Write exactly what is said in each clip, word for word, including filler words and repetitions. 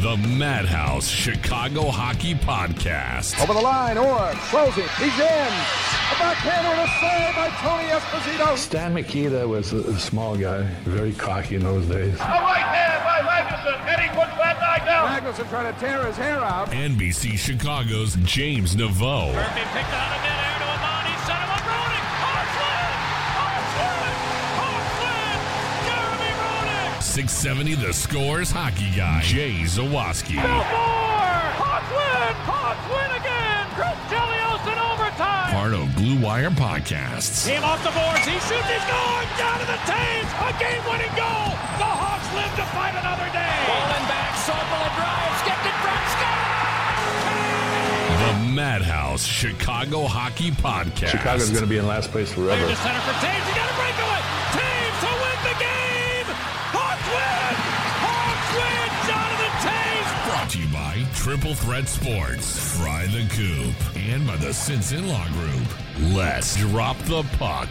The Madhouse Chicago Hockey Podcast. Over the line, Orr, closing, he's in. A backhander and a save by Tony Esposito. Stan Mikita was a, a small guy, very cocky in those days. A right hand by Magnuson, and he puts that guy down. Magnuson trying to tear his hair out. N B C Chicago's James Naveau. Murphy picked out of midair to Amani, set him up, Roenick, Hartland, Hartland, Hartland, Jeremy Roenick. six seventy The Score's hockey guy, Jay Zawaski. Belfort, Hartland, Hartland again, Chris Chelios in overtime. Part of Blue Wire Podcasts. Team off the boards, he shoots, he's going down to the Taves, a game-winning goal. The Hawks live to fight another day. Falling back, Sokol drives, gets it front, The Madhouse Chicago Hockey Podcast. Chicago's going to be in last place forever. Clear to center for Taves, he got a breakaway. Taves to win the game. Hawks win. Hawks win. Jonathan Taves. Brought to you by Triple Threat Sports, Fry the Coop, and by the Sinson Law Group. Let's drop the puck.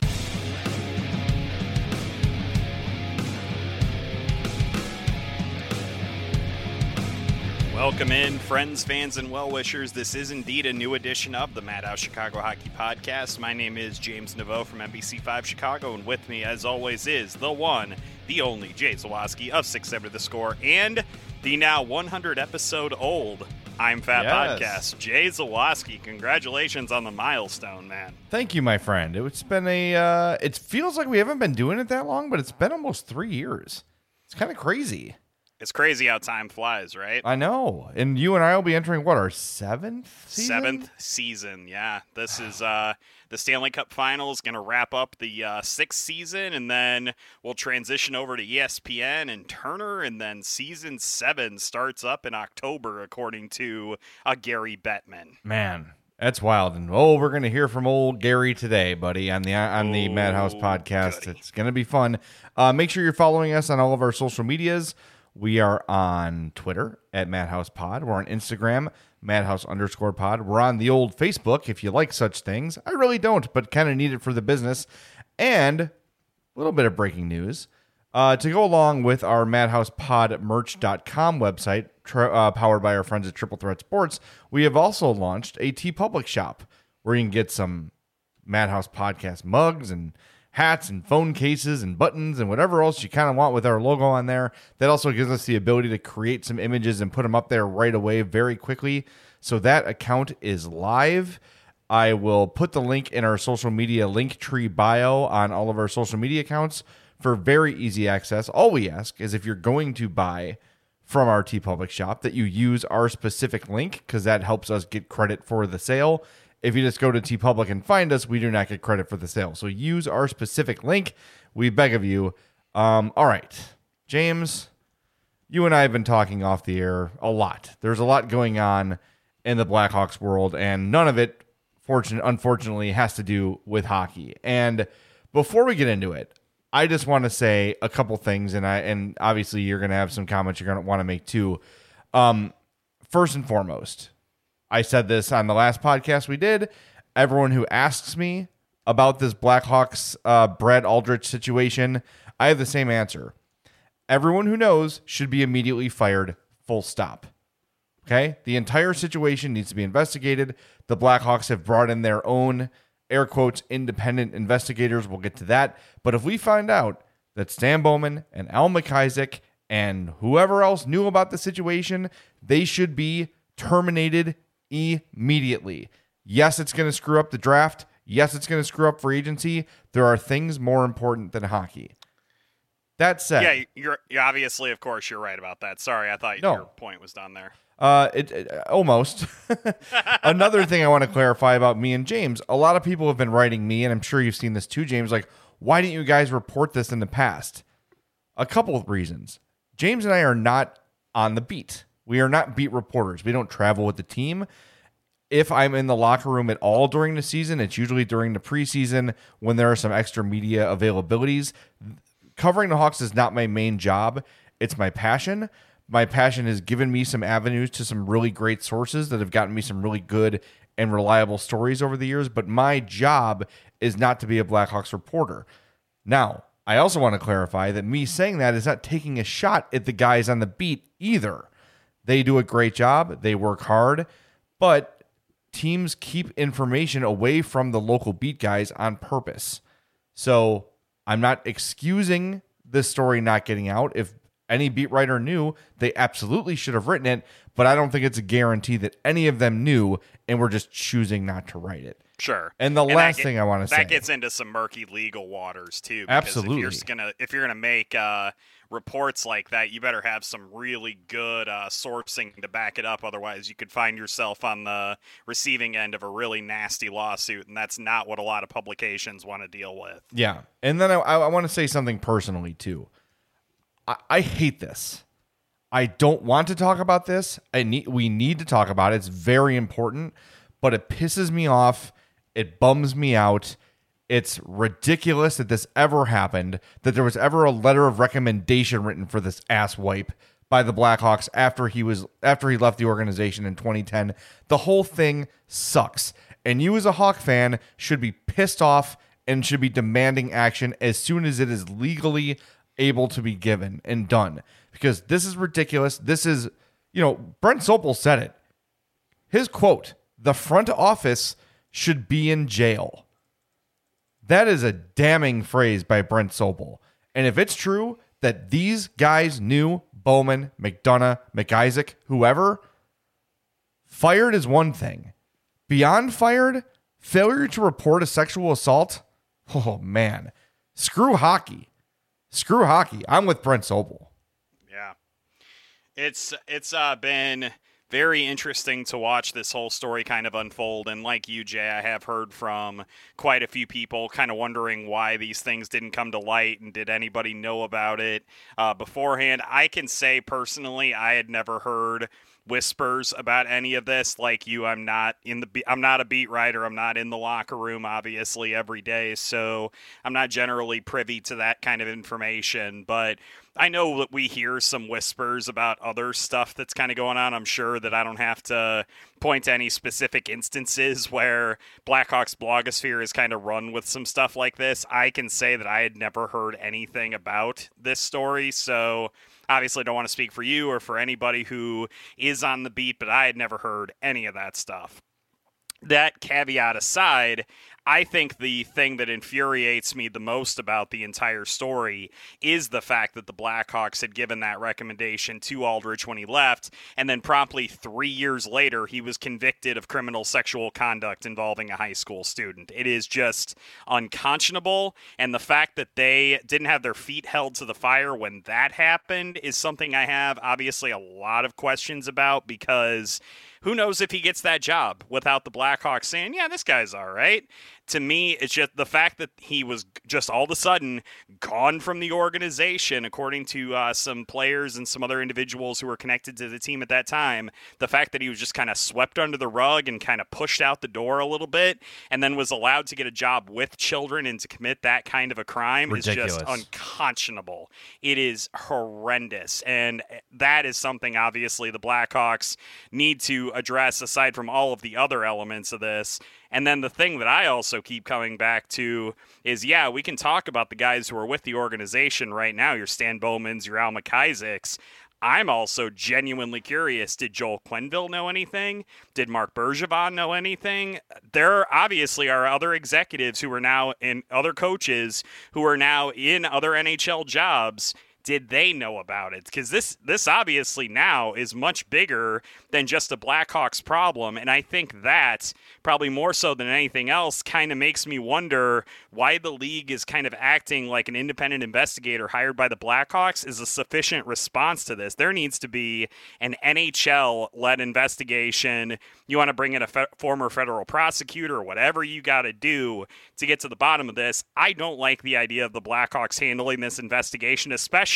Welcome in, friends, fans, and well-wishers. This is indeed a new edition of the Madhouse Chicago Hockey Podcast. My name is James Naveau from N B C five Chicago, and with me, as always, is the one, the only Jay Zawaski of six seventy The Score, and the now one hundred episode old I'm Fat Yes. Podcast. Jay Zawaski, congratulations on the milestone, man. Thank you, my friend. It's been a, uh, it feels like we haven't been doing it that long, but it's been almost three years. It's kind of crazy. It's crazy how time flies, right? I know. And you and I will be entering, what, our seventh season? Seventh season, yeah. This is uh, the Stanley Cup Finals, going to wrap up the uh, sixth season, and then we'll transition over to E S P N and Turner, and then season seven starts up in October, according to uh, Gary Bettman. Man, that's wild. And, oh, we're going to hear from old Gary today, buddy, on the on the Oh, Madhouse Podcast. goody. It's going to be fun. Uh, make sure you're following us on all of our social medias. We are on Twitter at Madhouse Pod. We're on Instagram, Madhouse underscore pod. We're on the old Facebook if you like such things. I really don't, but kind of need it for the business. And a little bit of breaking news. Uh, to go along with our madhouse pod merch dot com website, tra- uh, powered by our friends at Triple Threat Sports, we have also launched a TeePublic shop where you can get some Madhouse Podcast mugs and hats and phone cases and buttons and whatever else you kind of want with our logo on there. That also gives us the ability to create some images and put them up there right away very quickly. So that account is live. I will put the link in our social media link tree bio on all of our social media accounts for very easy access. All we ask is if you're going to buy from our TeePublic shop that you use our specific link, because that helps us get credit for the sale. If you just go to TeePublic and find us, we do not get credit for the sale. So use our specific link. We beg of you. Um, all right, James, you and I have been talking off the air a lot. There's a lot going on in the Blackhawks world, and none of it, fortunate, unfortunately, has to do with hockey. And before we get into it, I just want to say a couple things, and I and obviously you're going to have some comments you're going to want to make too. Um, first and foremost, I said this on the last podcast we did. Everyone who asks me about this Blackhawks uh, Brad Aldrich situation, I have the same answer. Everyone who knows should be immediately fired, full stop. Okay? The entire situation needs to be investigated. The Blackhawks have brought in their own, air quotes, independent investigators. We'll get to that. But if we find out that Stan Bowman and Al McIsaac and whoever else knew about the situation, they should be terminated immediately. Yes, it's going to screw up the draft. Yes, it's going to screw up free agency. There are things more important than hockey. That said, Yeah, you're, you're obviously, of course, you're right about that. Sorry, I thought No. your point was done there. Uh, it, it almost. Another thing I want to clarify about me and James. A lot of people have been writing me, and I'm sure you've seen this too, James. Like, why didn't you guys report this in the past? A couple of reasons. James and I are not on the beat. We are not beat reporters. We don't travel with the team. If I'm in the locker room at all during the season, it's usually during the preseason when there are some extra media availabilities. Covering the Hawks is not my main job. It's my passion. My passion has given me some avenues to some really great sources that have gotten me some really good and reliable stories over the years. But my job is not to be a Blackhawks reporter. Now, I also want to clarify that me saying that is not taking a shot at the guys on the beat either. They do a great job. They work hard, but teams keep information away from the local beat guys on purpose. So I'm not excusing this story not getting out. If any beat writer knew, they absolutely should have written it, but I don't think it's a guarantee that any of them knew and were just choosing not to write it. Sure. And the and last get, thing I want to say, that gets into some murky legal waters too. Absolutely. If you're gonna if you're gonna make uh, reports like that, you better have some really good uh, sourcing to back it up. Otherwise, you could find yourself on the receiving end of a really nasty lawsuit, and that's not what a lot of publications want to deal with. Yeah. And then I, I want to say something personally too. I, I hate this. I don't want to talk about this. I need we need to talk about it. It's very important, but it pisses me off. It bums me out. It's ridiculous that this ever happened, that there was ever a letter of recommendation written for this ass wipe by the Blackhawks after he was after he left the organization in twenty ten. The whole thing sucks. And you as a Hawk fan should be pissed off and should be demanding action as soon as it is legally able to be given and done. Because this is ridiculous. This is, you know, Brent Sopel said it. His quote, "The front office should be in jail." That is a damning phrase by Brent Sopel. And if it's true that these guys knew Bowman, McDonough, McIsaac, whoever, fired is one thing. Beyond fired, failure to report a sexual assault, oh man, screw hockey. Screw hockey. I'm with Brent Sopel. Yeah. It's it's uh, been very interesting to watch this whole story kind of unfold. And like you, Jay, I have heard from quite a few people kind of wondering why these things didn't come to light and did anybody know about it uh, beforehand. I can say personally, I had never heard whispers about any of this. Like you, I'm not in the be- I'm not a beat writer. I'm not in the locker room obviously every day, so I'm not generally privy to that kind of information, but I know that we hear some whispers about other stuff that's kind of going on. I'm sure that I don't have to point to any specific instances where Blackhawks blogosphere is kind of run with some stuff like this. I can say that I had never heard anything about this story, so obviously don't want to speak for you or for anybody who is on the beat, but I had never heard any of that stuff. That caveat aside, I think the thing that infuriates me the most about the entire story is the fact that the Blackhawks had given that recommendation to Aldrich when he left, and then promptly three years later, he was convicted of criminal sexual conduct involving a high school student. It is just unconscionable, and the fact that they didn't have their feet held to the fire when that happened is something I have obviously a lot of questions about, because who knows if he gets that job without the Blackhawks saying, yeah, this guy's all right. To me, it's just the fact that he was just all of a sudden gone from the organization, according to uh, some players and some other individuals who were connected to the team at that time. The fact that he was just kind of swept under the rug and kind of pushed out the door a little bit and then was allowed to get a job with children and to commit that kind of a crime Ridiculous. Is just unconscionable. It is horrendous. And that is something, obviously, the Blackhawks need to address aside from all of the other elements of this. And then the thing that I also keep coming back to is, yeah, we can talk about the guys who are with the organization right now, your Stan Bowmans, your Al McIsaacs. I'm also genuinely curious. Did Joel Quenneville know anything? Did Marc Bergevin know anything? There obviously are other executives who are now in other coaches who are now in other N H L jobs. Did they know about it? Because this this obviously now is much bigger than just a Blackhawks problem, and I think that, probably more so than anything else, kind of makes me wonder why the league is kind of acting like an independent investigator hired by the Blackhawks is a sufficient response to this. There needs to be an N H L-led investigation. You want to bring in a fe- former federal prosecutor or whatever you got to do to get to the bottom of this. I don't like the idea of the Blackhawks handling this investigation, especially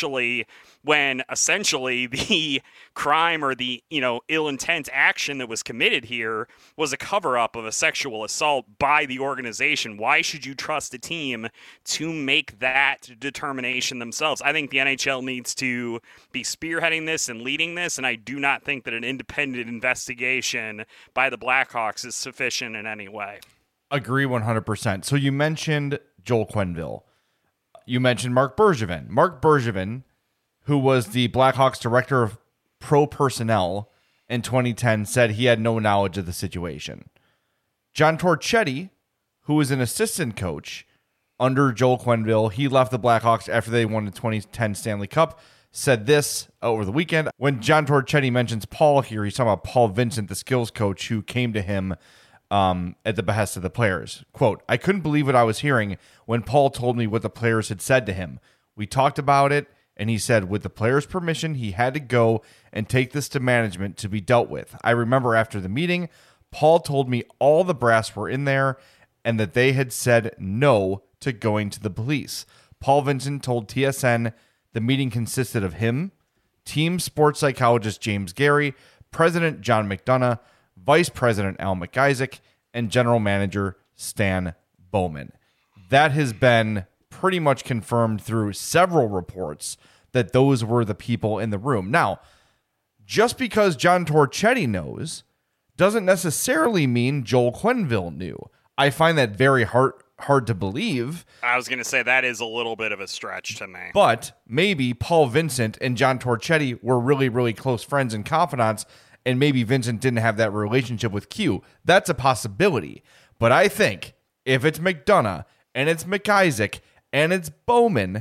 when essentially the crime or the, you know, ill intent action that was committed here was a cover-up of a sexual assault by the organization. Why should you trust a team to make that determination themselves? I think the N H L needs to be spearheading this and leading this, and I do not think that an independent investigation by the Blackhawks is sufficient in any way. Agree one hundred percent. So you mentioned Joel Quenneville. You mentioned Marc Bergevin. Marc Bergevin, who was the Blackhawks director of pro personnel in twenty ten said he had no knowledge of the situation. John Torchetti, who was an assistant coach under Joel Quenneville, he left the Blackhawks after they won the twenty ten Stanley Cup, said this over the weekend. When John Torchetti mentions Paul here, he's talking about Paul Vincent, the skills coach who came to him um, at the behest of the players. Quote, I couldn't believe what I was hearing when Paul told me what the players had said to him. We talked about it, and he said with the players' permission, he had to go and take this to management to be dealt with. I remember after the meeting, Paul told me all the brass were in there and that they had said no to going to the police. Paul Vincent told T S N the meeting consisted of him, team sports psychologist James Gary, President John McDonough, Vice President Al McIsaac, and General Manager Stan Bowman. That has been pretty much confirmed through several reports that those were the people in the room. Now, just because John Torchetti knows doesn't necessarily mean Joel Quenneville knew. I find that very hard hard to believe. I was going to say that is a little bit of a stretch to me. But maybe Paul Vincent and John Torchetti were really, really close friends and confidants, and maybe Vincent didn't have that relationship with Q. That's a possibility. But I think if it's McDonough and it's McIsaac and it's Bowman,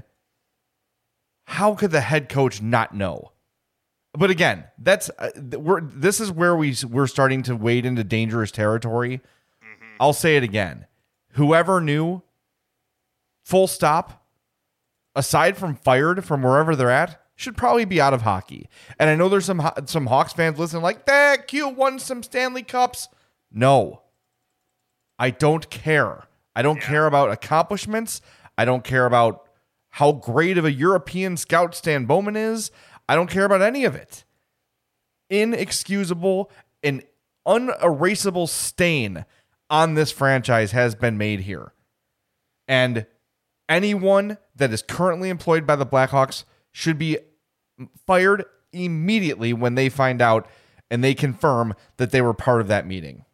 how could the head coach not know? But again, that's uh, we're this is where we we're starting to wade into dangerous territory. Mm-hmm. I'll say it again. Whoever knew, full stop, aside from fired from wherever they're at, should probably be out of hockey. And I know there's some some Hawks fans listening like, that Q won some Stanley Cups. No, I don't care. I don't yeah. care about accomplishments. I don't care about how great of a European scout Stan Bowman is. I don't care about any of it. Inexcusable and unerasable stain on this franchise has been made here. And anyone that is currently employed by the Blackhawks should be fired immediately when they find out and they confirm that they were part of that meeting.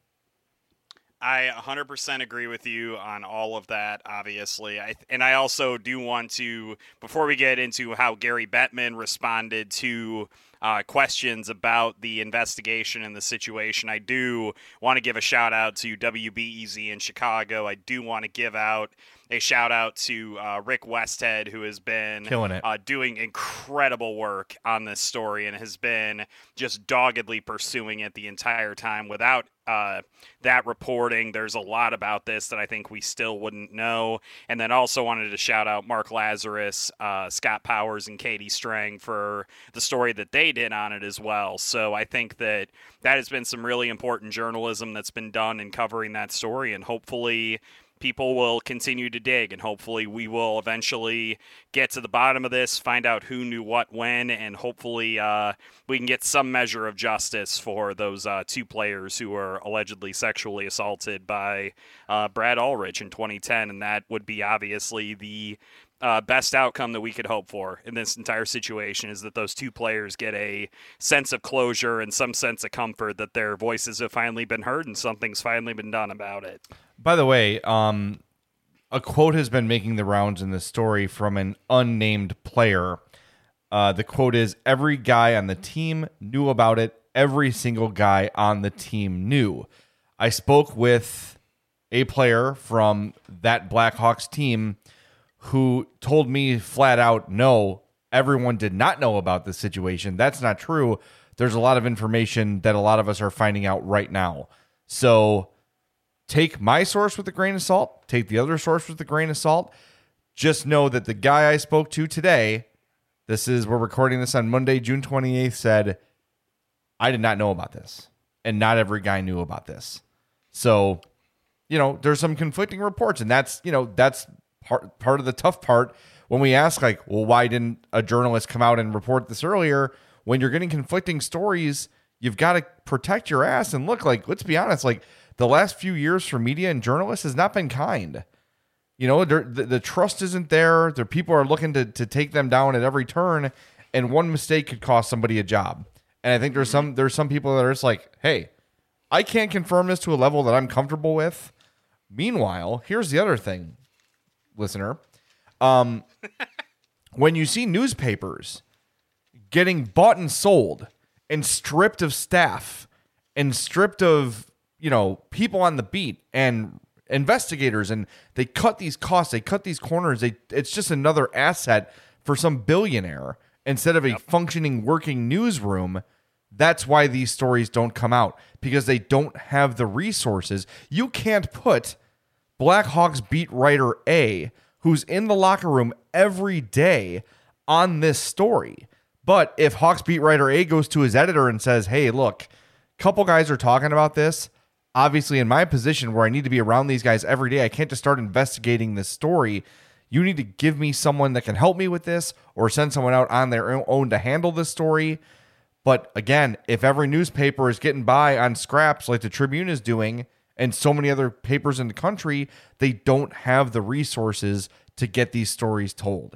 I one hundred percent agree with you on all of that, obviously. I, and I also do want to, before we get into how Gary Bettman responded to uh, questions about the investigation and the situation, I do want to give a shout out to W B E Z in Chicago. I do want to give out a shout out to uh, Rick Westhead, who has been killing it, uh, doing incredible work on this story and has been just doggedly pursuing it the entire time. Without uh, that reporting, there's a lot about this that I think we still wouldn't know. And then also wanted to shout out Mark Lazarus, uh, Scott Powers, and Katie Strang for the story that they did on it as well. So I think that that has been some really important journalism that's been done in covering that story, and hopefully people will continue to dig, and hopefully we will eventually get to the bottom of this, find out who knew what when, and hopefully uh, we can get some measure of justice for those uh, two players who were allegedly sexually assaulted by uh, Brad Ulrich in twenty ten, and that would be obviously the Uh, best outcome that we could hope for in this entire situation, is that those two players get a sense of closure and some sense of comfort that their voices have finally been heard and something's finally been done about it. By the way, um, a quote has been making the rounds in this story from an unnamed player. Uh, the quote is, every guy on the team knew about it. Every single guy on the team knew. I spoke with a player from that Blackhawks team who told me flat out, no, everyone did not know about this situation. That's not true. There's a lot of information that a lot of us are finding out right now. So take my source with a grain of salt. Take the other source with a grain of salt. Just know that the guy I spoke to today, this is, we're recording this on Monday, June twenty-eighth, said, I did not know about this. And not every guy knew about this. So, you know, there's some conflicting reports, and that's, you know, that's Part part of the tough part when we ask, like, well, why didn't a journalist come out and report this earlier? When you're getting conflicting stories, you've got to protect your ass. And look, like, let's be honest, like, the last few years for media and journalists has not been kind. You know, the, the trust isn't there. The people are looking to to take them down at every turn, and one mistake could cost somebody a job. And I think there's some there's some people that are just like, hey, I can't confirm this to a level that I'm comfortable with. Meanwhile, here's the other thing, listener. Um, when you see newspapers getting bought and sold and stripped of staff and stripped of, you know, people on the beat and investigators, and they cut these costs, they cut these corners. They it's just another asset for some billionaire instead of a yep. functioning working newsroom. That's why these stories don't come out, because they don't have the resources. You can't put Blackhawks beat writer A, who's in the locker room every day, on this story. But if Hawks beat writer A goes to his editor and says, hey, look, a couple guys are talking about this. Obviously, in my position where I need to be around these guys every day, I can't just start investigating this story. You need to give me someone that can help me with this, or send someone out on their own to handle this story. But again, if every newspaper is getting by on scraps like the Tribune is doing, and so many other papers in the country, they don't have the resources to get these stories told.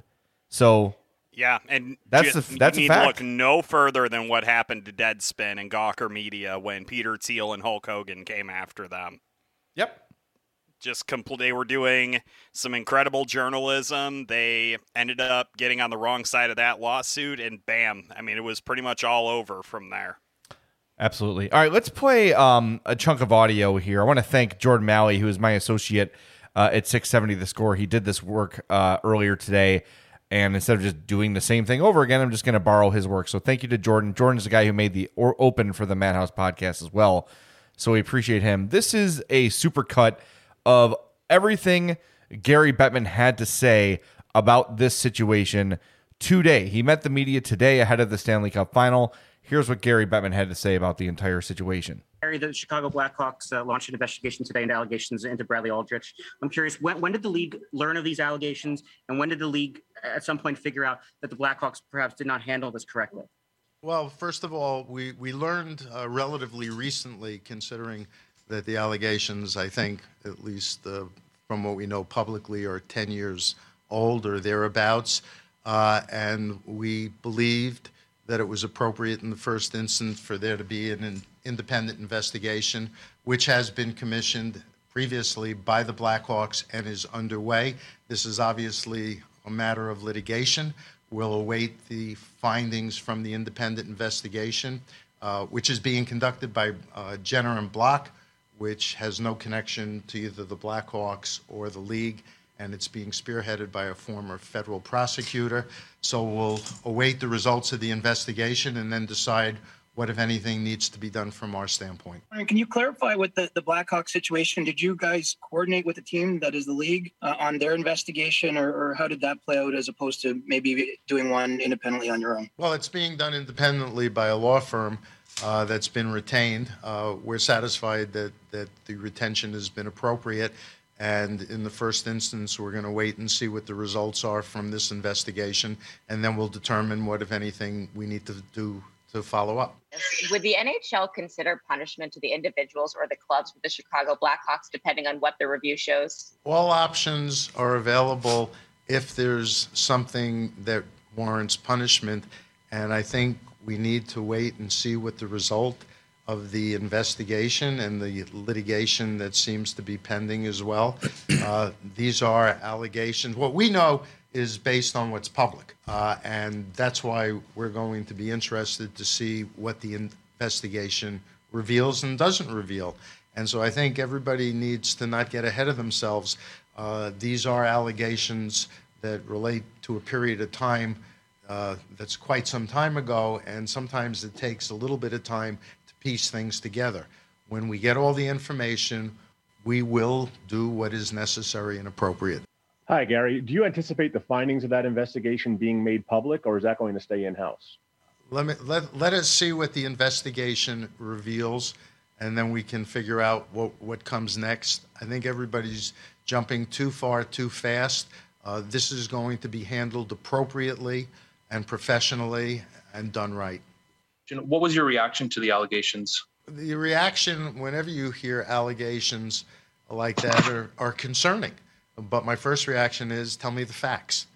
So yeah, and that's just, a, that's you a need fact. to look no further than what happened to Deadspin and Gawker Media when Peter Thiel and Hulk Hogan came after them. Yep. Just compl- they were doing some incredible journalism. They ended up getting on the wrong side of that lawsuit, and bam, I mean, it was pretty much all over from there. Absolutely. All right, let's play um, a chunk of audio here. I want to thank Jordan Malley, who is my associate uh, at six seventy The Score. He did this work uh, earlier today, and instead of just doing the same thing over again, I'm just going to borrow his work. So thank you to Jordan. Jordan's the guy who made the or- open for the Madhouse podcast as well, so we appreciate him. This is a supercut of everything Gary Bettman had to say about this situation today. He met the media today ahead of the Stanley Cup final. Here's what Gary Bettman had to say about the entire situation. Gary, the Chicago Blackhawks uh, launched an investigation today into allegations into Bradley Aldrich. I'm curious, when, when did the league learn of these allegations, and when did the league at some point figure out that the Blackhawks perhaps did not handle this correctly? Well, first of all, we, we learned uh, relatively recently, considering that the allegations, I think, at least uh, from what we know publicly, are ten years old or thereabouts. Uh, and we believed that it was appropriate in the first instance for there to be an in, independent investigation, which has been commissioned previously by the Blackhawks and is underway. This is obviously a matter of litigation. We'll await the findings from the independent investigation, uh, which is being conducted by uh, Jenner and Block, which has no connection to either the Blackhawks or the league, and it's being spearheaded by a former federal prosecutor. So we'll await the results of the investigation and then decide what, if anything, needs to be done from our standpoint. Can you clarify with the, the Blackhawks situation? Did you guys coordinate with the team, that is the league, uh, on their investigation, or, or how did that play out as opposed to maybe doing one independently on your own? Well, it's being done independently by a law firm Uh, that's been retained. Uh, we're satisfied that, that the retention has been appropriate. And in the first instance, we're going to wait and see what the results are from this investigation. And then we'll determine what, if anything, we need to do to follow up. Would the N H L consider punishment to the individuals or the clubs with the Chicago Blackhawks, depending on what the review shows? All options are available if there's something that warrants punishment. And I think we need to wait and see what the result of the investigation and the litigation that seems to be pending as well. Uh, these are allegations. What we know is based on what's public, uh, and that's why we're going to be interested to see what the investigation reveals and doesn't reveal. And so I think everybody needs to not get ahead of themselves. Uh, these are allegations that relate to a period of time Uh, that's quite some time ago, and sometimes it takes a little bit of time to piece things together. When we get all the information, we will do what is necessary and appropriate. Hi, Gary. Do you anticipate the findings of that investigation being made public, or is that going to stay in-house? Let me let let us see what the investigation reveals, and then we can figure out what, what comes next. I think everybody's jumping too far, too fast. Uh, this is going to be handled appropriately and professionally and done right. What was your reaction to the allegations? The reaction, whenever you hear allegations like that, are, are concerning. But my first reaction is, tell me the facts.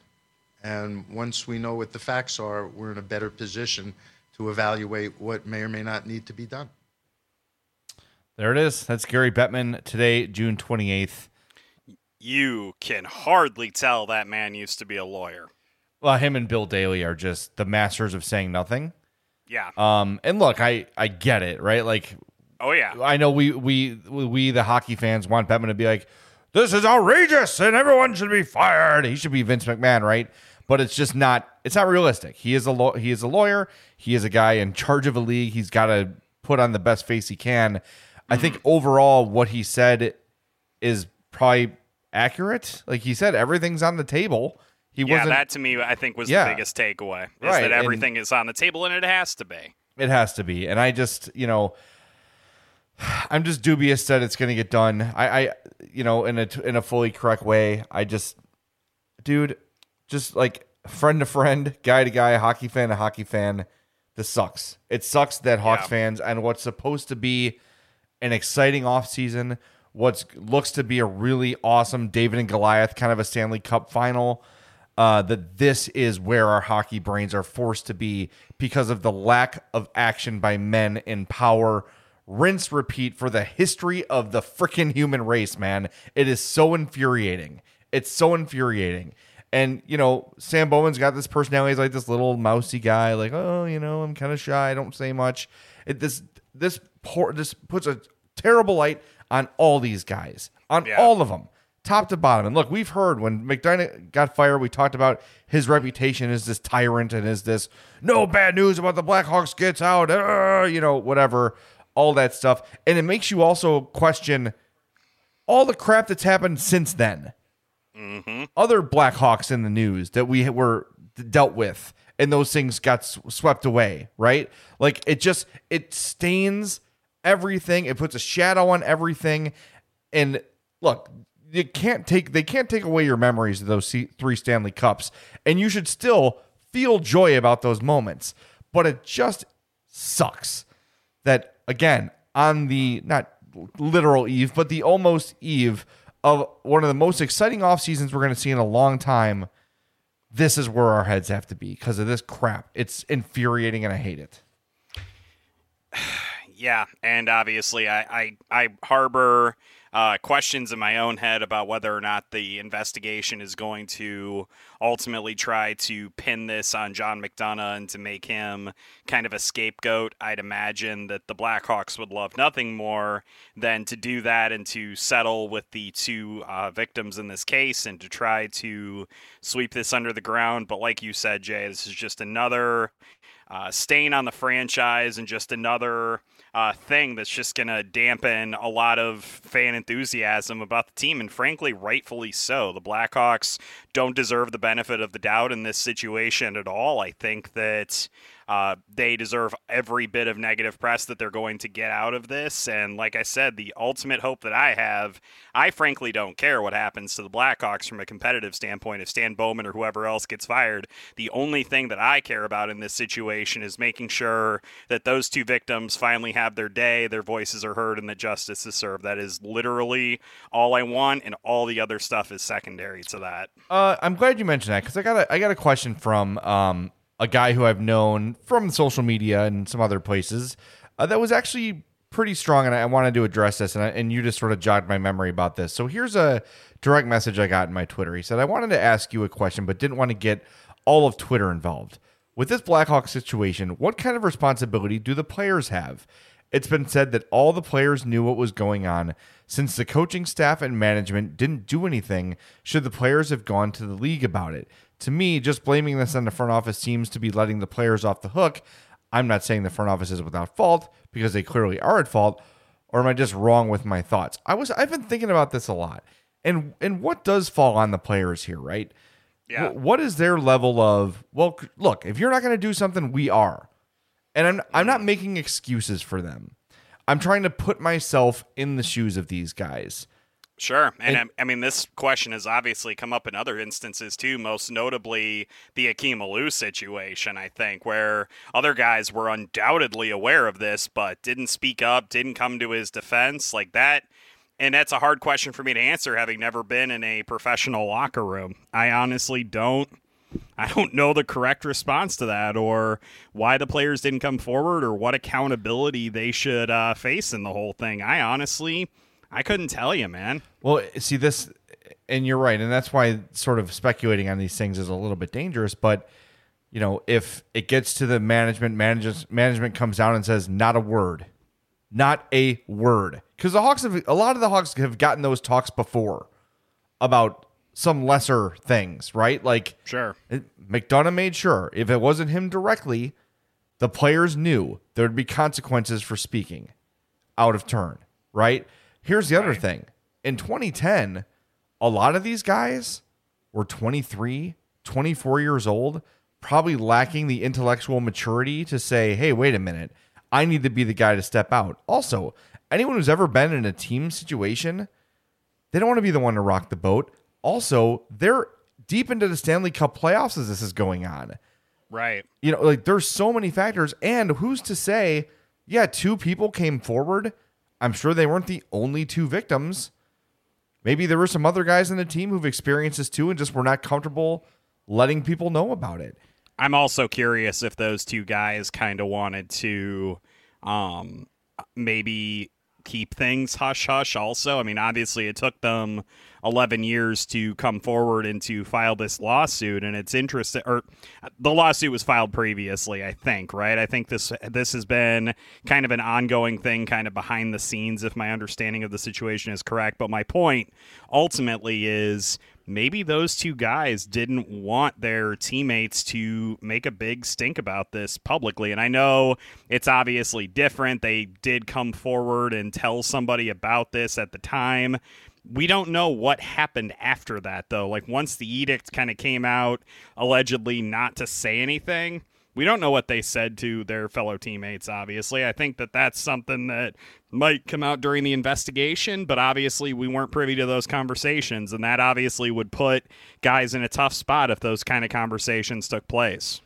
And once we know what the facts are, we're in a better position to evaluate what may or may not need to be done. There it is. That's Gary Bettman today, June twenty-eighth. You can hardly tell that man used to be a lawyer. Well, him and Bill Daly are just the masters of saying nothing. Yeah. Um, and look, I, I get it, right? Like, oh yeah, I know we, we, we, the hockey fans want Bettman to be like, this is outrageous and everyone should be fired. He should be Vince McMahon, right? But it's just not, it's not realistic. He is a law he is a lawyer. He is a guy in charge of a league. He's got to put on the best face he can. Mm. I think overall what he said is probably accurate. Like he said, everything's on the table. He yeah, wasn't, that to me, I think, was yeah, the biggest takeaway. Is right, that everything and, is on the table, and it has to be. It has to be. And I just, you know, I'm just dubious that it's going to get done. I, I, you know, in a in a fully correct way. I just, dude, just like friend to friend, guy to guy, hockey fan to hockey fan. This sucks. It sucks that Hawks yeah. fans and what's supposed to be an exciting offseason, what looks to be a really awesome David and Goliath kind of a Stanley Cup final, uh, that this is where our hockey brains are forced to be because of the lack of action by men in power. Rinse, repeat for the history of the freaking human race, man. It is so infuriating. It's so infuriating. And, you know, Sam Bowman's got this personality. He's like this little mousy guy, like, oh, you know, I'm kind of shy. I don't say much. It, this this poor, this puts a terrible light on all these guys, on yeah. all of them, top to bottom. And look, we've heard when McDonough got fired, we talked about his reputation as this tyrant and as this no bad news about the Blackhawks gets out, uh, you know, whatever, all that stuff. And it makes you also question all the crap that's happened since then. Mm-hmm. Other Blackhawks in the news that we were dealt with, and those things got swept away, right? Like it just it stains everything. It puts a shadow on everything. And look, you can't take they can't take away your memories of those three Stanley Cups, and you should still feel joy about those moments. But it just sucks that again on the not literal eve, but the almost eve of one of the most exciting off seasons we're going to see in a long time, this is where our heads have to be because of this crap. It's infuriating and I hate it. Yeah, and obviously I, I, I harbor uh, questions in my own head about whether or not the investigation is going to ultimately try to pin this on John McDonough and to make him kind of a scapegoat. I'd imagine that the Blackhawks would love nothing more than to do that and to settle with the two uh, victims in this case and to try to sweep this under the ground. But like you said, Jay, this is just another uh, stain on the franchise and just another Uh, thing that's just going to dampen a lot of fan enthusiasm about the team, and frankly, rightfully so. The Blackhawks don't deserve the benefit of the doubt in this situation at all. I think that uh, they deserve every bit of negative press that they're going to get out of this, and like I said, the ultimate hope that I have, I frankly don't care what happens to the Blackhawks from a competitive standpoint. If Stan Bowman or whoever else gets fired, the only thing that I care about in this situation is making sure that those two victims finally have their day, their voices are heard, and that justice is served. That is literally all I want, and all the other stuff is secondary to that. Uh, I'm glad you mentioned that because I got a, I got a question from um, a guy who I've known from social media and some other places uh, that was actually pretty strong, and I wanted to address this, and, I, and you just sort of jogged my memory about this. So here's a direct message I got in my Twitter. He said, I wanted to ask you a question, but didn't want to get all of Twitter involved. With this Blackhawks situation, what kind of responsibility do the players have? It's been said that all the players knew what was going on. Since the coaching staff and management didn't do anything, should the players have gone to the league about it? To me, just blaming this on the front office seems to be letting the players off the hook. I'm not saying the front office is without fault, because they clearly are at fault, or am I just wrong with my thoughts? I was, I've been thinking about this a lot. And and what does fall on the players here, right? Yeah. W- what is their level of, well, look, if you're not going to do something, we are. And I'm I'm not making excuses for them. I'm trying to put myself in the shoes of these guys. Sure. And, and I mean, this question has obviously come up in other instances too, most notably the Akeem Alou situation, I think, where other guys were undoubtedly aware of this, but didn't speak up, didn't come to his defense like that. And that's a hard question for me to answer, having never been in a professional locker room. I honestly don't. I don't know the correct response to that, or why the players didn't come forward, or what accountability they should uh, face in the whole thing. I honestly, I couldn't tell you, man. Well, see this, and you're right, and that's why sort of speculating on these things is a little bit dangerous, but you know, if it gets to the management, manages, management comes down and says, not a word, not a word. Because the Hawks have, a lot of the Hawks have gotten those talks before about some lesser things, right? Like, sure, it, McDonough made sure if it wasn't him directly, the players knew there would be consequences for speaking out of turn, right? Here's the other right. thing. In twenty ten, a lot of these guys were twenty-three, twenty-four years old, probably lacking the intellectual maturity to say, hey, wait a minute, I need to be the guy to step out. Also, anyone who's ever been in a team situation, they don't want to be the one to rock the boat. Also, they're deep into the Stanley Cup playoffs as this is going on. Right. You know, like there's so many factors. And who's to say, yeah, two people came forward. I'm sure they weren't the only two victims. Maybe there were some other guys in the team who've experienced this too and just were not comfortable letting people know about it. I'm also curious if those two guys kind of wanted to um, maybe keep things hush-hush also. I mean, obviously it took them eleven years to come forward and to file this lawsuit, and it's interesting, or the lawsuit was filed previously, I think, right? I think this this has been kind of an ongoing thing, kind of behind the scenes, if my understanding of the situation is correct. But my point ultimately is maybe those two guys didn't want their teammates to make a big stink about this publicly. And I know it's obviously different. They did come forward and tell somebody about this at the time. We don't know what happened after that, though. Like, once the edict kind of came out, allegedly not to say anything, we don't know what they said to their fellow teammates, obviously. I think that that's something that might come out during the investigation, but obviously we weren't privy to those conversations, and that obviously would put guys in a tough spot if those kind of conversations took place.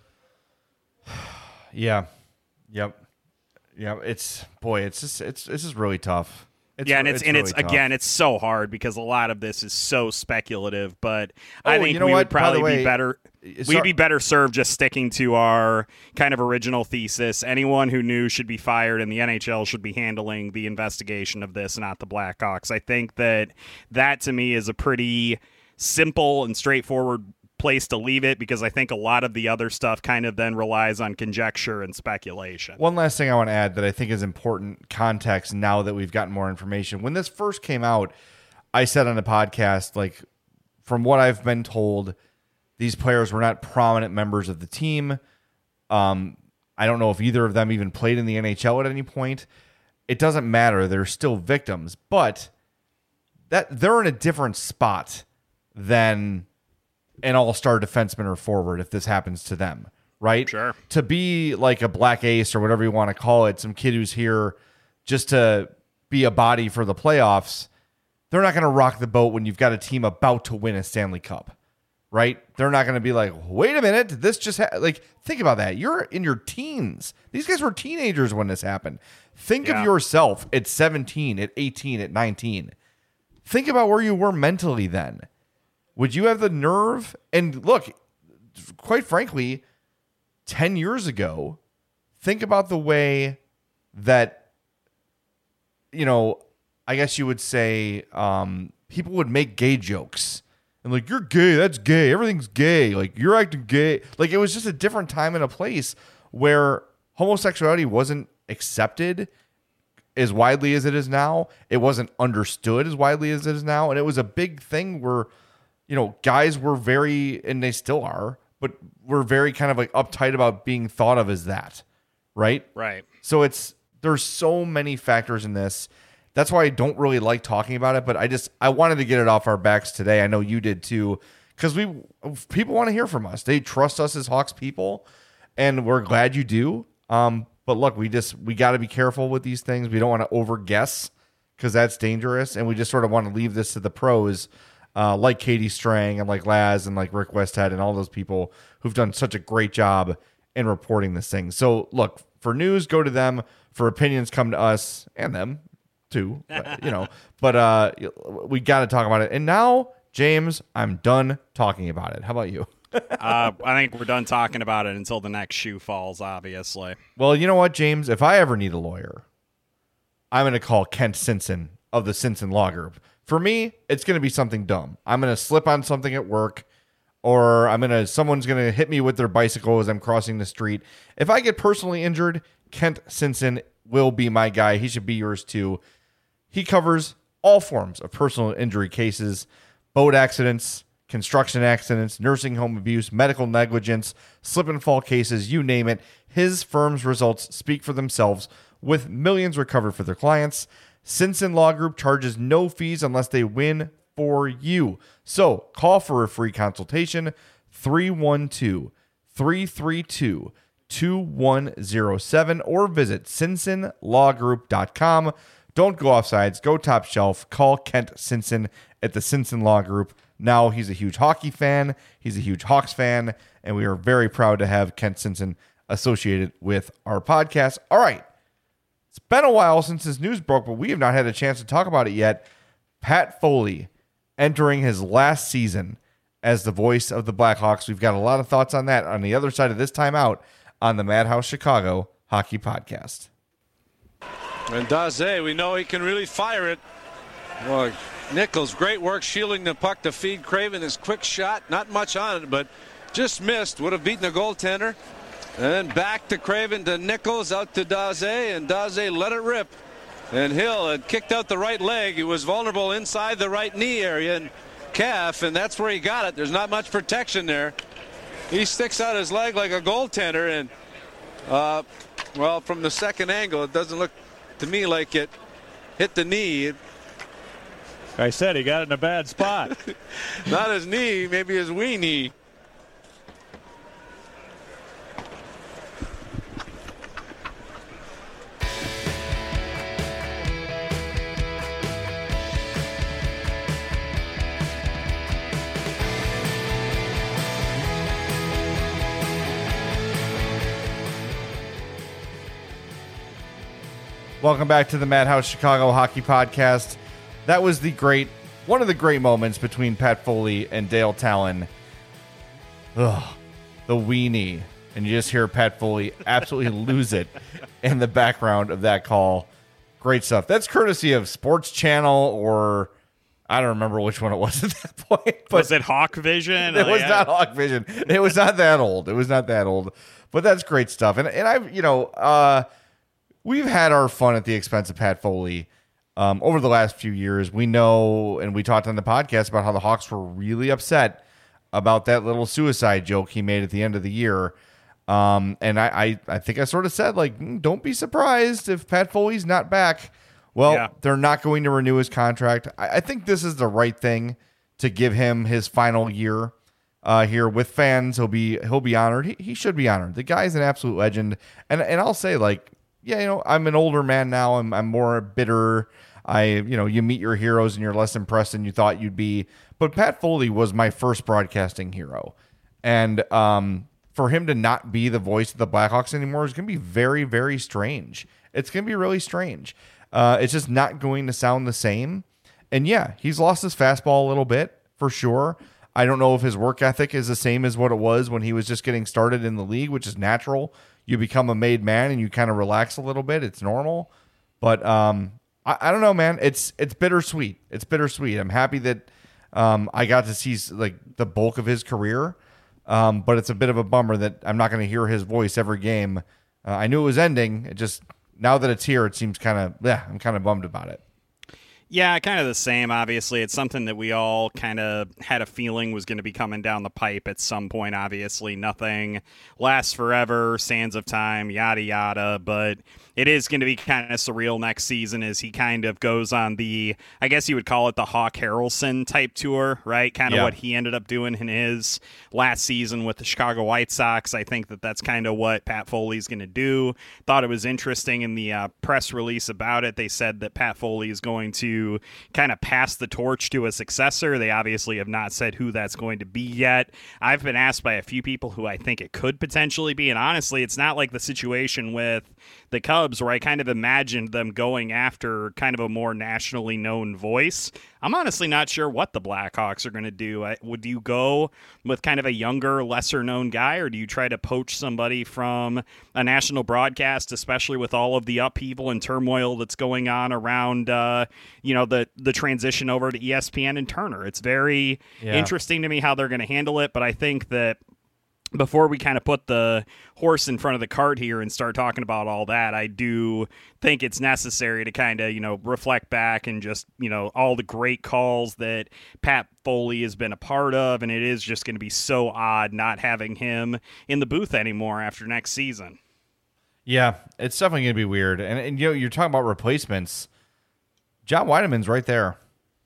Yeah. Yep. Yeah. It's, boy, it's just, it's, this is really tough. It's, yeah, and it's, it's and really it's tough. again, it's so hard because a lot of this is so speculative. But Oh, I think you know we what? would By the probably way, be better. sorry- We'd be better served just sticking to our kind of original thesis. Anyone who knew should be fired, and the N H L should be handling the investigation of this, not the Blackhawks. I think that that to me is a pretty simple and straightforward place to leave it, because I think a lot of the other stuff kind of then relies on conjecture and speculation. One last thing I want to add that I think is important context now that we've gotten more information. When this first came out, I said on the podcast, like, from what I've been told, these players were not prominent members of the team. Um, I don't know if either of them even played in the N H L at any point. It doesn't matter. They're still victims, but that they're in a different spot than an all-star defenseman or forward if this happens to them, right? Sure. To be like a black ace or whatever you want to call it, some kid who's here just to be a body for the playoffs, they're not going to rock the boat when you've got a team about to win a Stanley Cup, right? They're not going to be like, wait a minute, did this just ha-? Like, think about that. You're in your teens. These guys were teenagers when this happened. Think Yeah. of yourself at seventeen, at eighteen, at nineteen. Think about where you were mentally then. Would you have the nerve? And look, quite frankly, ten years ago, think about the way that, you know, I guess you would say um, people would make gay jokes. And like, you're gay, that's gay, everything's gay, like, you're acting gay. Like, it was just a different time and a place where homosexuality wasn't accepted as widely as it is now. It wasn't understood as widely as it is now. And it was a big thing where, you know, guys were very, and they still are, but we're very kind of like uptight about being thought of as that, right? Right. So it's, there's so many factors in this. That's why I don't really like talking about it, but I just, I wanted to get it off our backs today. I know you did too, because we, people want to hear from us. They trust us as Hawks people, and we're glad you do. Um, but look, we just, we got to be careful with these things. We don't want to over guess, because that's dangerous. And we just sort of want to leave this to the pros, Uh, like Katie Strang and like Laz and like Rick Westhead and all those people who've done such a great job in reporting this thing. So look, for news, go to them. For opinions, come to us and them too, but, you know, but uh, we got to talk about it. And now, James, I'm done talking about it. How about you? uh, I think we're done talking about it until the next shoe falls, obviously. Well, you know what, James? If I ever need a lawyer, I'm going to call Kent Simpson of the Simpson Law Group. For me, it's going to be something dumb. I'm going to slip on something at work. or I'm gonna someone's gonna hit me with their bicycle as I'm crossing the street. If I get personally injured, Kent Simpson will be my guy. He should be yours too. He covers all forms of personal injury cases, boat accidents, construction accidents, nursing home abuse, medical negligence, slip and fall cases, you name it. His firm's results speak for themselves, with millions recovered for their clients. Simpson Law Group charges no fees unless they win for you. So call for a free consultation, three one two, three three two, two one zero seven, or visit simpson law group dot com. Don't go off sides, go top shelf. Call Kent Simpson at the Simpson Law Group. Now he's a huge hockey fan, he's a huge Hawks fan, and we are very proud to have Kent Simpson associated with our podcast. All right. It's been a while since this news broke, but we have not had a chance to talk about it yet. Pat Foley entering his last season as the voice of the Blackhawks. We've got a lot of thoughts on that on the other side of this timeout on the Madhouse Chicago Hockey Podcast. And Daze, we know he can really fire it. Well, Nichols, great work shielding the puck to feed Craven. His quick shot, not much on it, but just missed. Would have beaten the goaltender. And then back to Craven to Nichols, out to Daze, and Daze let it rip. And Hill had kicked out the right leg. He was vulnerable inside the right knee area and calf, and that's where he got it. There's not much protection there. He sticks out his leg like a goaltender, and, uh, well, from the second angle, it doesn't look to me like it hit the knee. I said he got it in a bad spot. Not his knee, maybe his wee knee. Welcome back to the Madhouse Chicago Hockey Podcast. That was the great, one of the great moments between Pat Foley and Dale Talon. Ugh, the weenie. And you just hear Pat Foley absolutely lose it in the background of that call. Great stuff. That's courtesy of Sports Channel, or I don't remember which one it was at that point. But was it Hawk Vision? It was yeah. not Hawk Vision. It was not that old. It was not that old. But that's great stuff. And and I've, you know, uh, we've had our fun at the expense of Pat Foley um, over the last few years. We know, and we talked on the podcast about how the Hawks were really upset about that little suicide joke he made at the end of the year. Um, and I, I, I think I sort of said, like, mm, don't be surprised if Pat Foley's not back. Well, yeah. They're not going to renew his contract. I, I think this is the right thing to give him his final year uh, here with fans. He'll be he'll be honored. He, he should be honored. The guy's an absolute legend. And and I'll say, like, yeah, you know, I'm an older man now. I'm I'm more bitter. I, you know, you meet your heroes and you're less impressed than you thought you'd be. But Pat Foley was my first broadcasting hero. And um, for him to not be the voice of the Blackhawks anymore is going to be very, very strange. It's going to be really strange. Uh, it's just not going to sound the same. And yeah, he's lost his fastball a little bit for sure. I don't know if his work ethic is the same as what it was when he was just getting started in the league, which is natural. You become a made man and you kind of relax a little bit. It's normal. But um, I, I don't know, man. It's it's bittersweet. It's bittersweet. I'm happy that um, I got to see like the bulk of his career. Um, but it's a bit of a bummer that I'm not going to hear his voice every game. Uh, I knew it was ending. It just, now that it's here, it seems kind of, yeah, I'm kind of bummed about it. Yeah, kind of the same, obviously. It's something that we all kind of had a feeling was going to be coming down the pipe at some point, obviously. Nothing lasts forever, sands of time, yada, yada. But it is going to be kind of surreal next season as he kind of goes on the, I guess you would call it the Hawk Harrelson type tour, right? Kind of yeah. what he ended up doing in his last season with the Chicago White Sox. I think that that's kind of what Pat Foley's going to do. Thought it was interesting in the uh, press release about it. They said that Pat Foley is going to kind of pass the torch to a successor. They obviously have not said who that's going to be yet. I've been asked by a few people who I think it could potentially be, and honestly, it's not like the situation with the Cubs where I kind of imagined them going after kind of a more nationally known voice. I'm honestly not sure what the Blackhawks are going to do. I, would you go with kind of a younger, lesser-known guy, or do you try to poach somebody from a national broadcast, especially with all of the upheaval and turmoil that's going on around, uh, you know, the the transition over to E S P N and Turner. It's very Yeah. interesting to me how they're going to handle it, but I think that before we kind of put the horse in front of the cart here and start talking about all that, I do think it's necessary to kind of, you know, reflect back and just, you know, all the great calls that Pat Foley has been a part of, and it is just going to be so odd not having him in the booth anymore after next season. Yeah, it's definitely going to be weird. And, and, you know, you're talking about replacements. John Weideman's right there.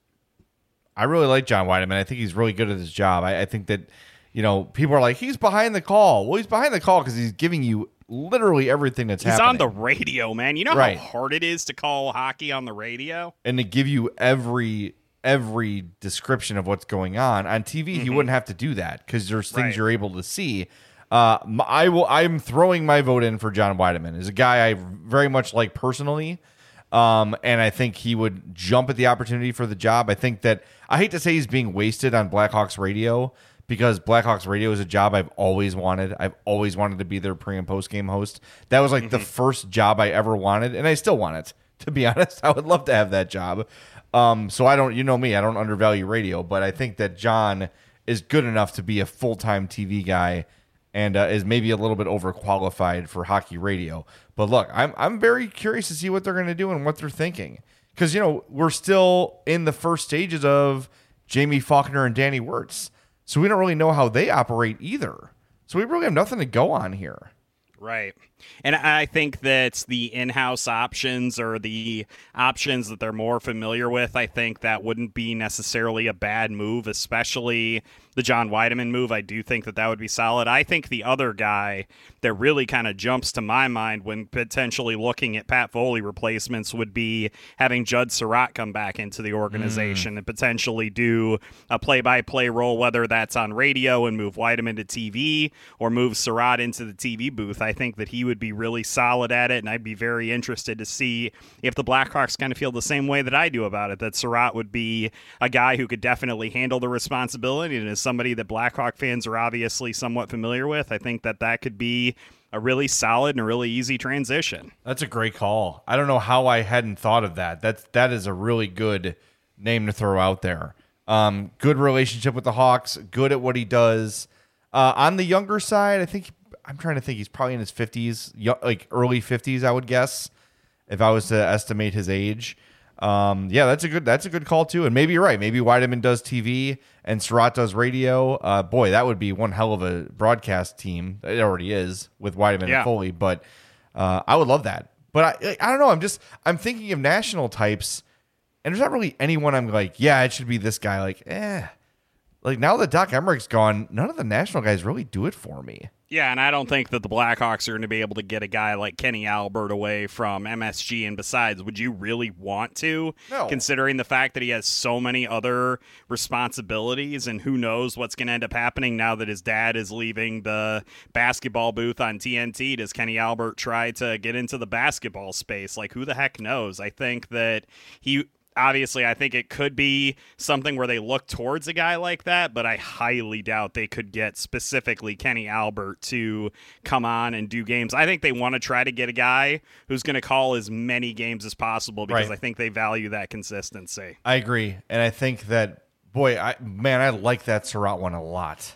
I really like John Weideman. I think he's really good at his job. I, I think that, you know, people are like, he's behind the call. Well, he's behind the call because he's giving you literally everything that's he's happening. He's on the radio, man. You know right. how hard it is to call hockey on the radio? And to give you every every description of what's going on. On T V, mm-hmm. he wouldn't have to do that because there's things right. you're able to see. Uh, I will. I'm throwing my vote in for John Weideman. He's a guy I very much like personally. Um, and I think he would jump at the opportunity for the job. I think that I hate to say he's being wasted on Blackhawks radio, because Blackhawks radio is a job I've always wanted. I've always wanted to be their pre and post game host. That was like mm-hmm. the first job I ever wanted, and I still want it. To be honest, I would love to have that job. Um, so I don't, you know me, I don't undervalue radio, but I think that John is good enough to be a full time T V guy, and uh, is maybe a little bit overqualified for hockey radio. But look, I'm I'm very curious to see what they're going to do and what they're thinking, because you know we're still in the first stages of Jamie Faulkner and Danny Wirtz. So we don't really know how they operate either. So we really have nothing to go on here. Right. And I think that the in-house options or the options that they're more familiar with, I think that wouldn't be necessarily a bad move, especially the John Weideman move. I do think that that would be solid. I think the other guy that really kind of jumps to my mind when potentially looking at Pat Foley replacements would be having Judd Surratt come back into the organization mm. and potentially do a play-by-play role, whether that's on radio and move Weideman to T V or move Surratt into the T V booth. I think that he would be really solid at it, and I'd be very interested to see if the Blackhawks kind of feel the same way that I do about it, that Surratt would be a guy who could definitely handle the responsibility, and is somebody that Blackhawk fans are obviously somewhat familiar with. I think that that could be a really solid and a really easy transition. That's a great call. I don't know how I hadn't thought of that. That's, that is a really good name to throw out there. Um, good relationship with the Hawks, good at what he does. Uh, on the younger side, I think I'm trying to think. He's probably in his fifties, like early fifties, I would guess, if I was to estimate his age. Um, yeah, that's a good that's a good call too. And maybe you're right. Maybe Weideman does T V and Surratt does radio. Uh, boy, that would be one hell of a broadcast team. It already is with Weideman yeah. and Foley, but uh, I would love that. But I I don't know. I'm just I'm thinking of national types, and there's not really anyone I'm like, yeah, it should be this guy. Like, eh. Like, now that Doc Emmerich's gone, none of the national guys really do it for me. Yeah, and I don't think that the Blackhawks are going to be able to get a guy like Kenny Albert away from M S G. And besides, would you really want to? No. Considering the fact that he has so many other responsibilities, and who knows what's going to end up happening now that his dad is leaving the basketball booth on T N T. Does Kenny Albert try to get into the basketball space? Like, who the heck knows? I think that he... Obviously, I think it could be something where they look towards a guy like that, but I highly doubt they could get specifically Kenny Albert to come on and do games. I think they want to try to get a guy who's going to call as many games as possible, because right. I think they value that consistency. I agree. And I think that, boy, I man, I like that Surratt one a lot.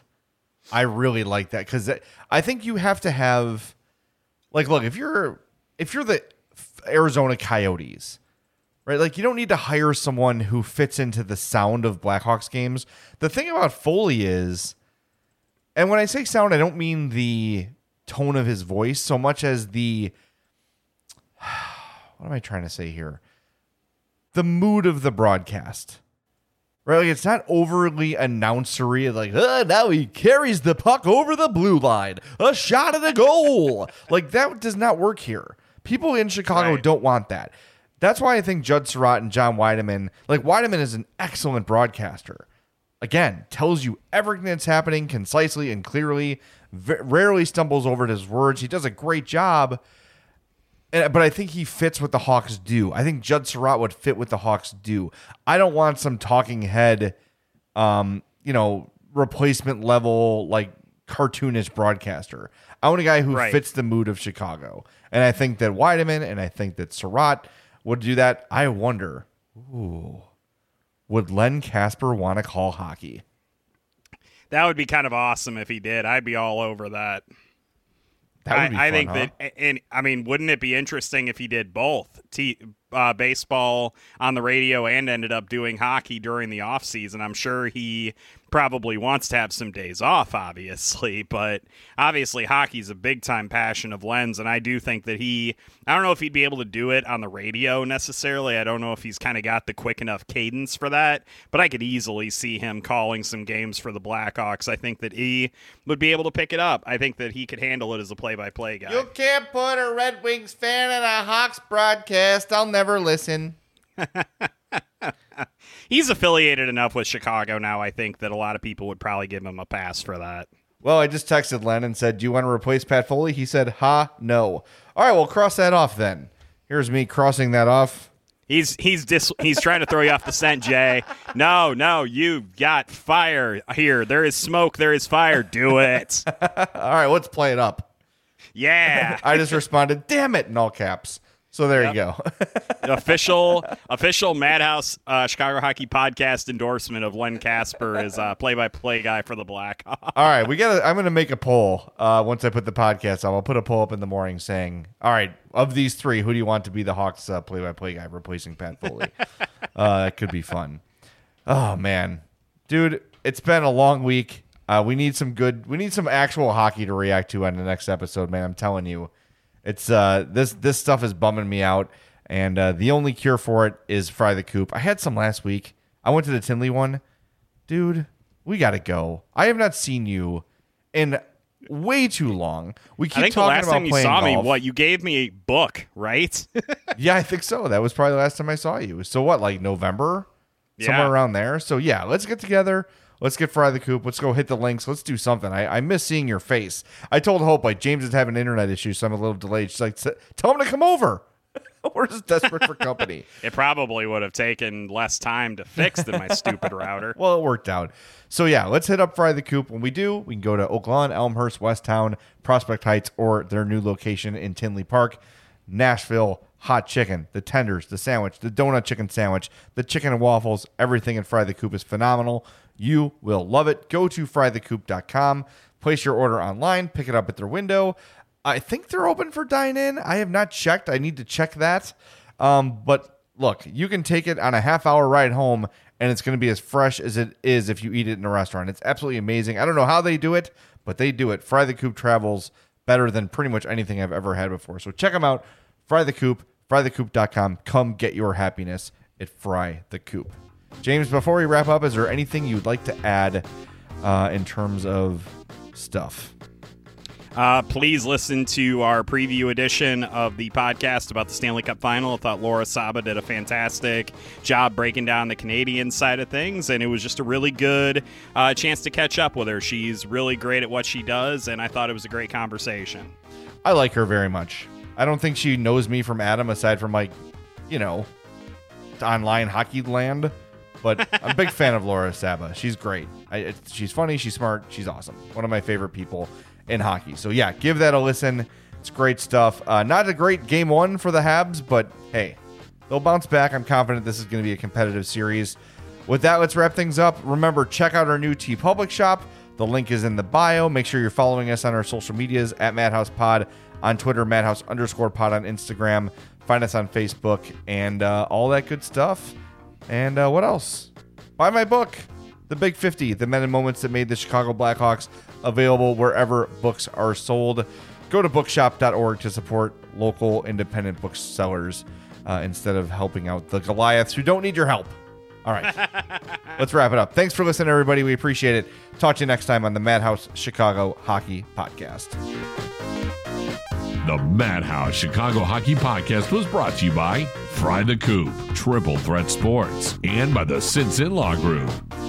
I really like that, because I think you have to have, like, look, if you're if you're the Arizona Coyotes, right? Like, you don't need to hire someone who fits into the sound of Blackhawks games. The thing about Foley is, and when I say sound, I don't mean the tone of his voice so much as the, what am I trying to say here? The mood of the broadcast, right? Like, it's not overly announcery, like, oh, now he carries the puck over the blue line, a shot at a goal. Like, that does not work here. People in Chicago right. don't want that. That's why I think Judd Surratt and John Weideman, like, Weideman is an excellent broadcaster. Again, tells you everything that's happening concisely and clearly, v- rarely stumbles over his words. He does a great job, and, but I think he fits what the Hawks do. I think Judd Surratt would fit what the Hawks do. I don't want some talking head, um, you know, replacement level, like, cartoonish broadcaster. I want a guy who right. fits the mood of Chicago. And I think that Weideman and I think that Surratt would do that. I wonder Ooh. Would Len Casper want to call hockey? That would be kind of awesome if he did. I'd be all over that. That would be I, I fun, think huh? that, and I mean, wouldn't it be interesting if he did both? T- uh, baseball on the radio and ended up doing hockey during the off season. I'm sure he probably wants to have some days off, obviously, but obviously hockey's a big time passion of Len's, and I do think that he, I don't know if he'd be able to do it on the radio necessarily. I don't know if he's kind of got the quick enough cadence for that, but I could easily see him calling some games for the Blackhawks. I think that he would be able to pick it up. I think that he could handle it as a play-by-play guy. You can't put a Red Wings fan in a Hawks broadcast. I'll never listen. He's affiliated enough with Chicago now, I think, that a lot of people would probably give him a pass for that. Well, I just texted Len and said, do you want to replace Pat Foley? He said, ha, no. All right, well, cross that off then. Here's me crossing that off. He's he's dis- he's trying to throw you off the scent, Jay. No, no, you got fire here. There is smoke. There is fire. Do it. All right, let's play it up. Yeah. I just responded, damn it, in all caps. So there Yep. you go. The official official Madhouse uh, Chicago Hockey Podcast endorsement of Len Casper as uh, play-by-play guy for the Blackhawks. All right, we got. I'm going to make a poll uh, once I put the podcast up. I'll put a poll up in the morning saying, all right, of these three, who do you want to be the Hawks uh, play-by-play guy replacing Pat Foley? uh, that could be fun. Oh, man. Dude, it's been a long week. Uh, we need some good, we need some actual hockey to react to on the next episode, man. I'm telling you. It's uh this this stuff is bumming me out, and uh, the only cure for it is Fry the Coop. I had some last week. I went to the Tinley one. Dude, we got to go. I have not seen you in way too long. We keep I think talking the last about time you playing saw golf. me, what, you gave me a book, right? Yeah, I think so. That was probably the last time I saw you. So what, like November? Yeah. Somewhere around there. So yeah, let's get together. Let's get Fry the Coop. Let's go hit the links. Let's do something. I, I miss seeing your face. I told Hope, like, James is having internet issues, so I'm a little delayed. She's like, tell him to come over. We're just desperate for company. It probably would have taken less time to fix than my stupid router. Well, it worked out. So yeah, let's hit up Fry the Coop. When we do, we can go to Oak Lawn, Elmhurst, Westtown, Prospect Heights, or their new location in Tinley Park. Nashville hot chicken, the tenders, the sandwich, the donut chicken sandwich, the chicken and waffles, everything in Fry the Coop is phenomenal. You will love it. Go to fry the coop dot com, place your order online, pick it up at their window. I think they're open for dine-in. I have not checked. I need to check that. Um, but look, you can take it on a half-hour ride home, and it's going to be as fresh as it is if you eat it in a restaurant. It's absolutely amazing. I don't know how they do it, but they do it. Fry the Coop travels better than pretty much anything I've ever had before. So check them out. Fry the Coop, fry the coop dot com. Come get your happiness at Fry the Coop. James, before we wrap up, is there anything you'd like to add uh, in terms of stuff? Uh, please listen to our preview edition of the podcast about the Stanley Cup Final. I thought Laura Saba did a fantastic job breaking down the Canadian side of things, and it was just a really good uh, chance to catch up with her. She's really great at what she does, and I thought it was a great conversation. I like her very much. I don't think she knows me from Adam, aside from, like, you know, online hockey land. But I'm a big fan of Laura Saba. She's great. I, it, she's funny. She's smart. She's awesome. One of my favorite people in hockey. So, yeah, give that a listen. It's great stuff. Uh, not a great game one for the Habs, but, hey, they'll bounce back. I'm confident this is going to be a competitive series. With that, let's wrap things up. Remember, check out our new TeePublic shop. The link is in the bio. Make sure you're following us on our social medias at Madhouse Pod on Twitter, Madhouse underscore pod on Instagram. Find us on Facebook and uh, all that good stuff. And uh, what else? Buy my book, The Big fifty, The Men and Moments That Made the Chicago Blackhawks, available wherever books are sold. Go to bookshop dot org to support local independent booksellers uh, instead of helping out the Goliaths who don't need your help. All right, let's wrap it up. Thanks for listening, everybody. We appreciate it. Talk to you next time on the Madhouse Chicago Hockey Podcast. The Madhouse Chicago Hockey Podcast was brought to you by Fry the Coop, Triple Threat Sports, and by the Sinson Law Group.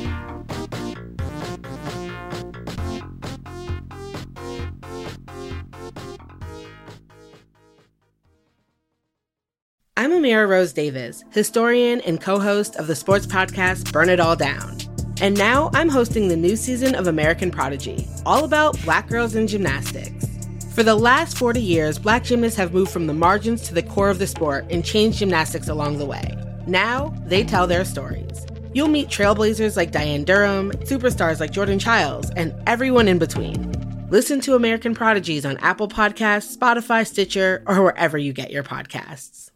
I'm Amira Rose Davis, historian and co-host of the sports podcast Burn It All Down. And now I'm hosting the new season of American Prodigy, all about Black girls in gymnastics. For the last forty years, Black gymnasts have moved from the margins to the core of the sport and changed gymnastics along the way. Now, they tell their stories. You'll meet trailblazers like Diane Durham, superstars like Jordan Childs, and everyone in between. Listen to American Prodigies on Apple Podcasts, Spotify, Stitcher, or wherever you get your podcasts.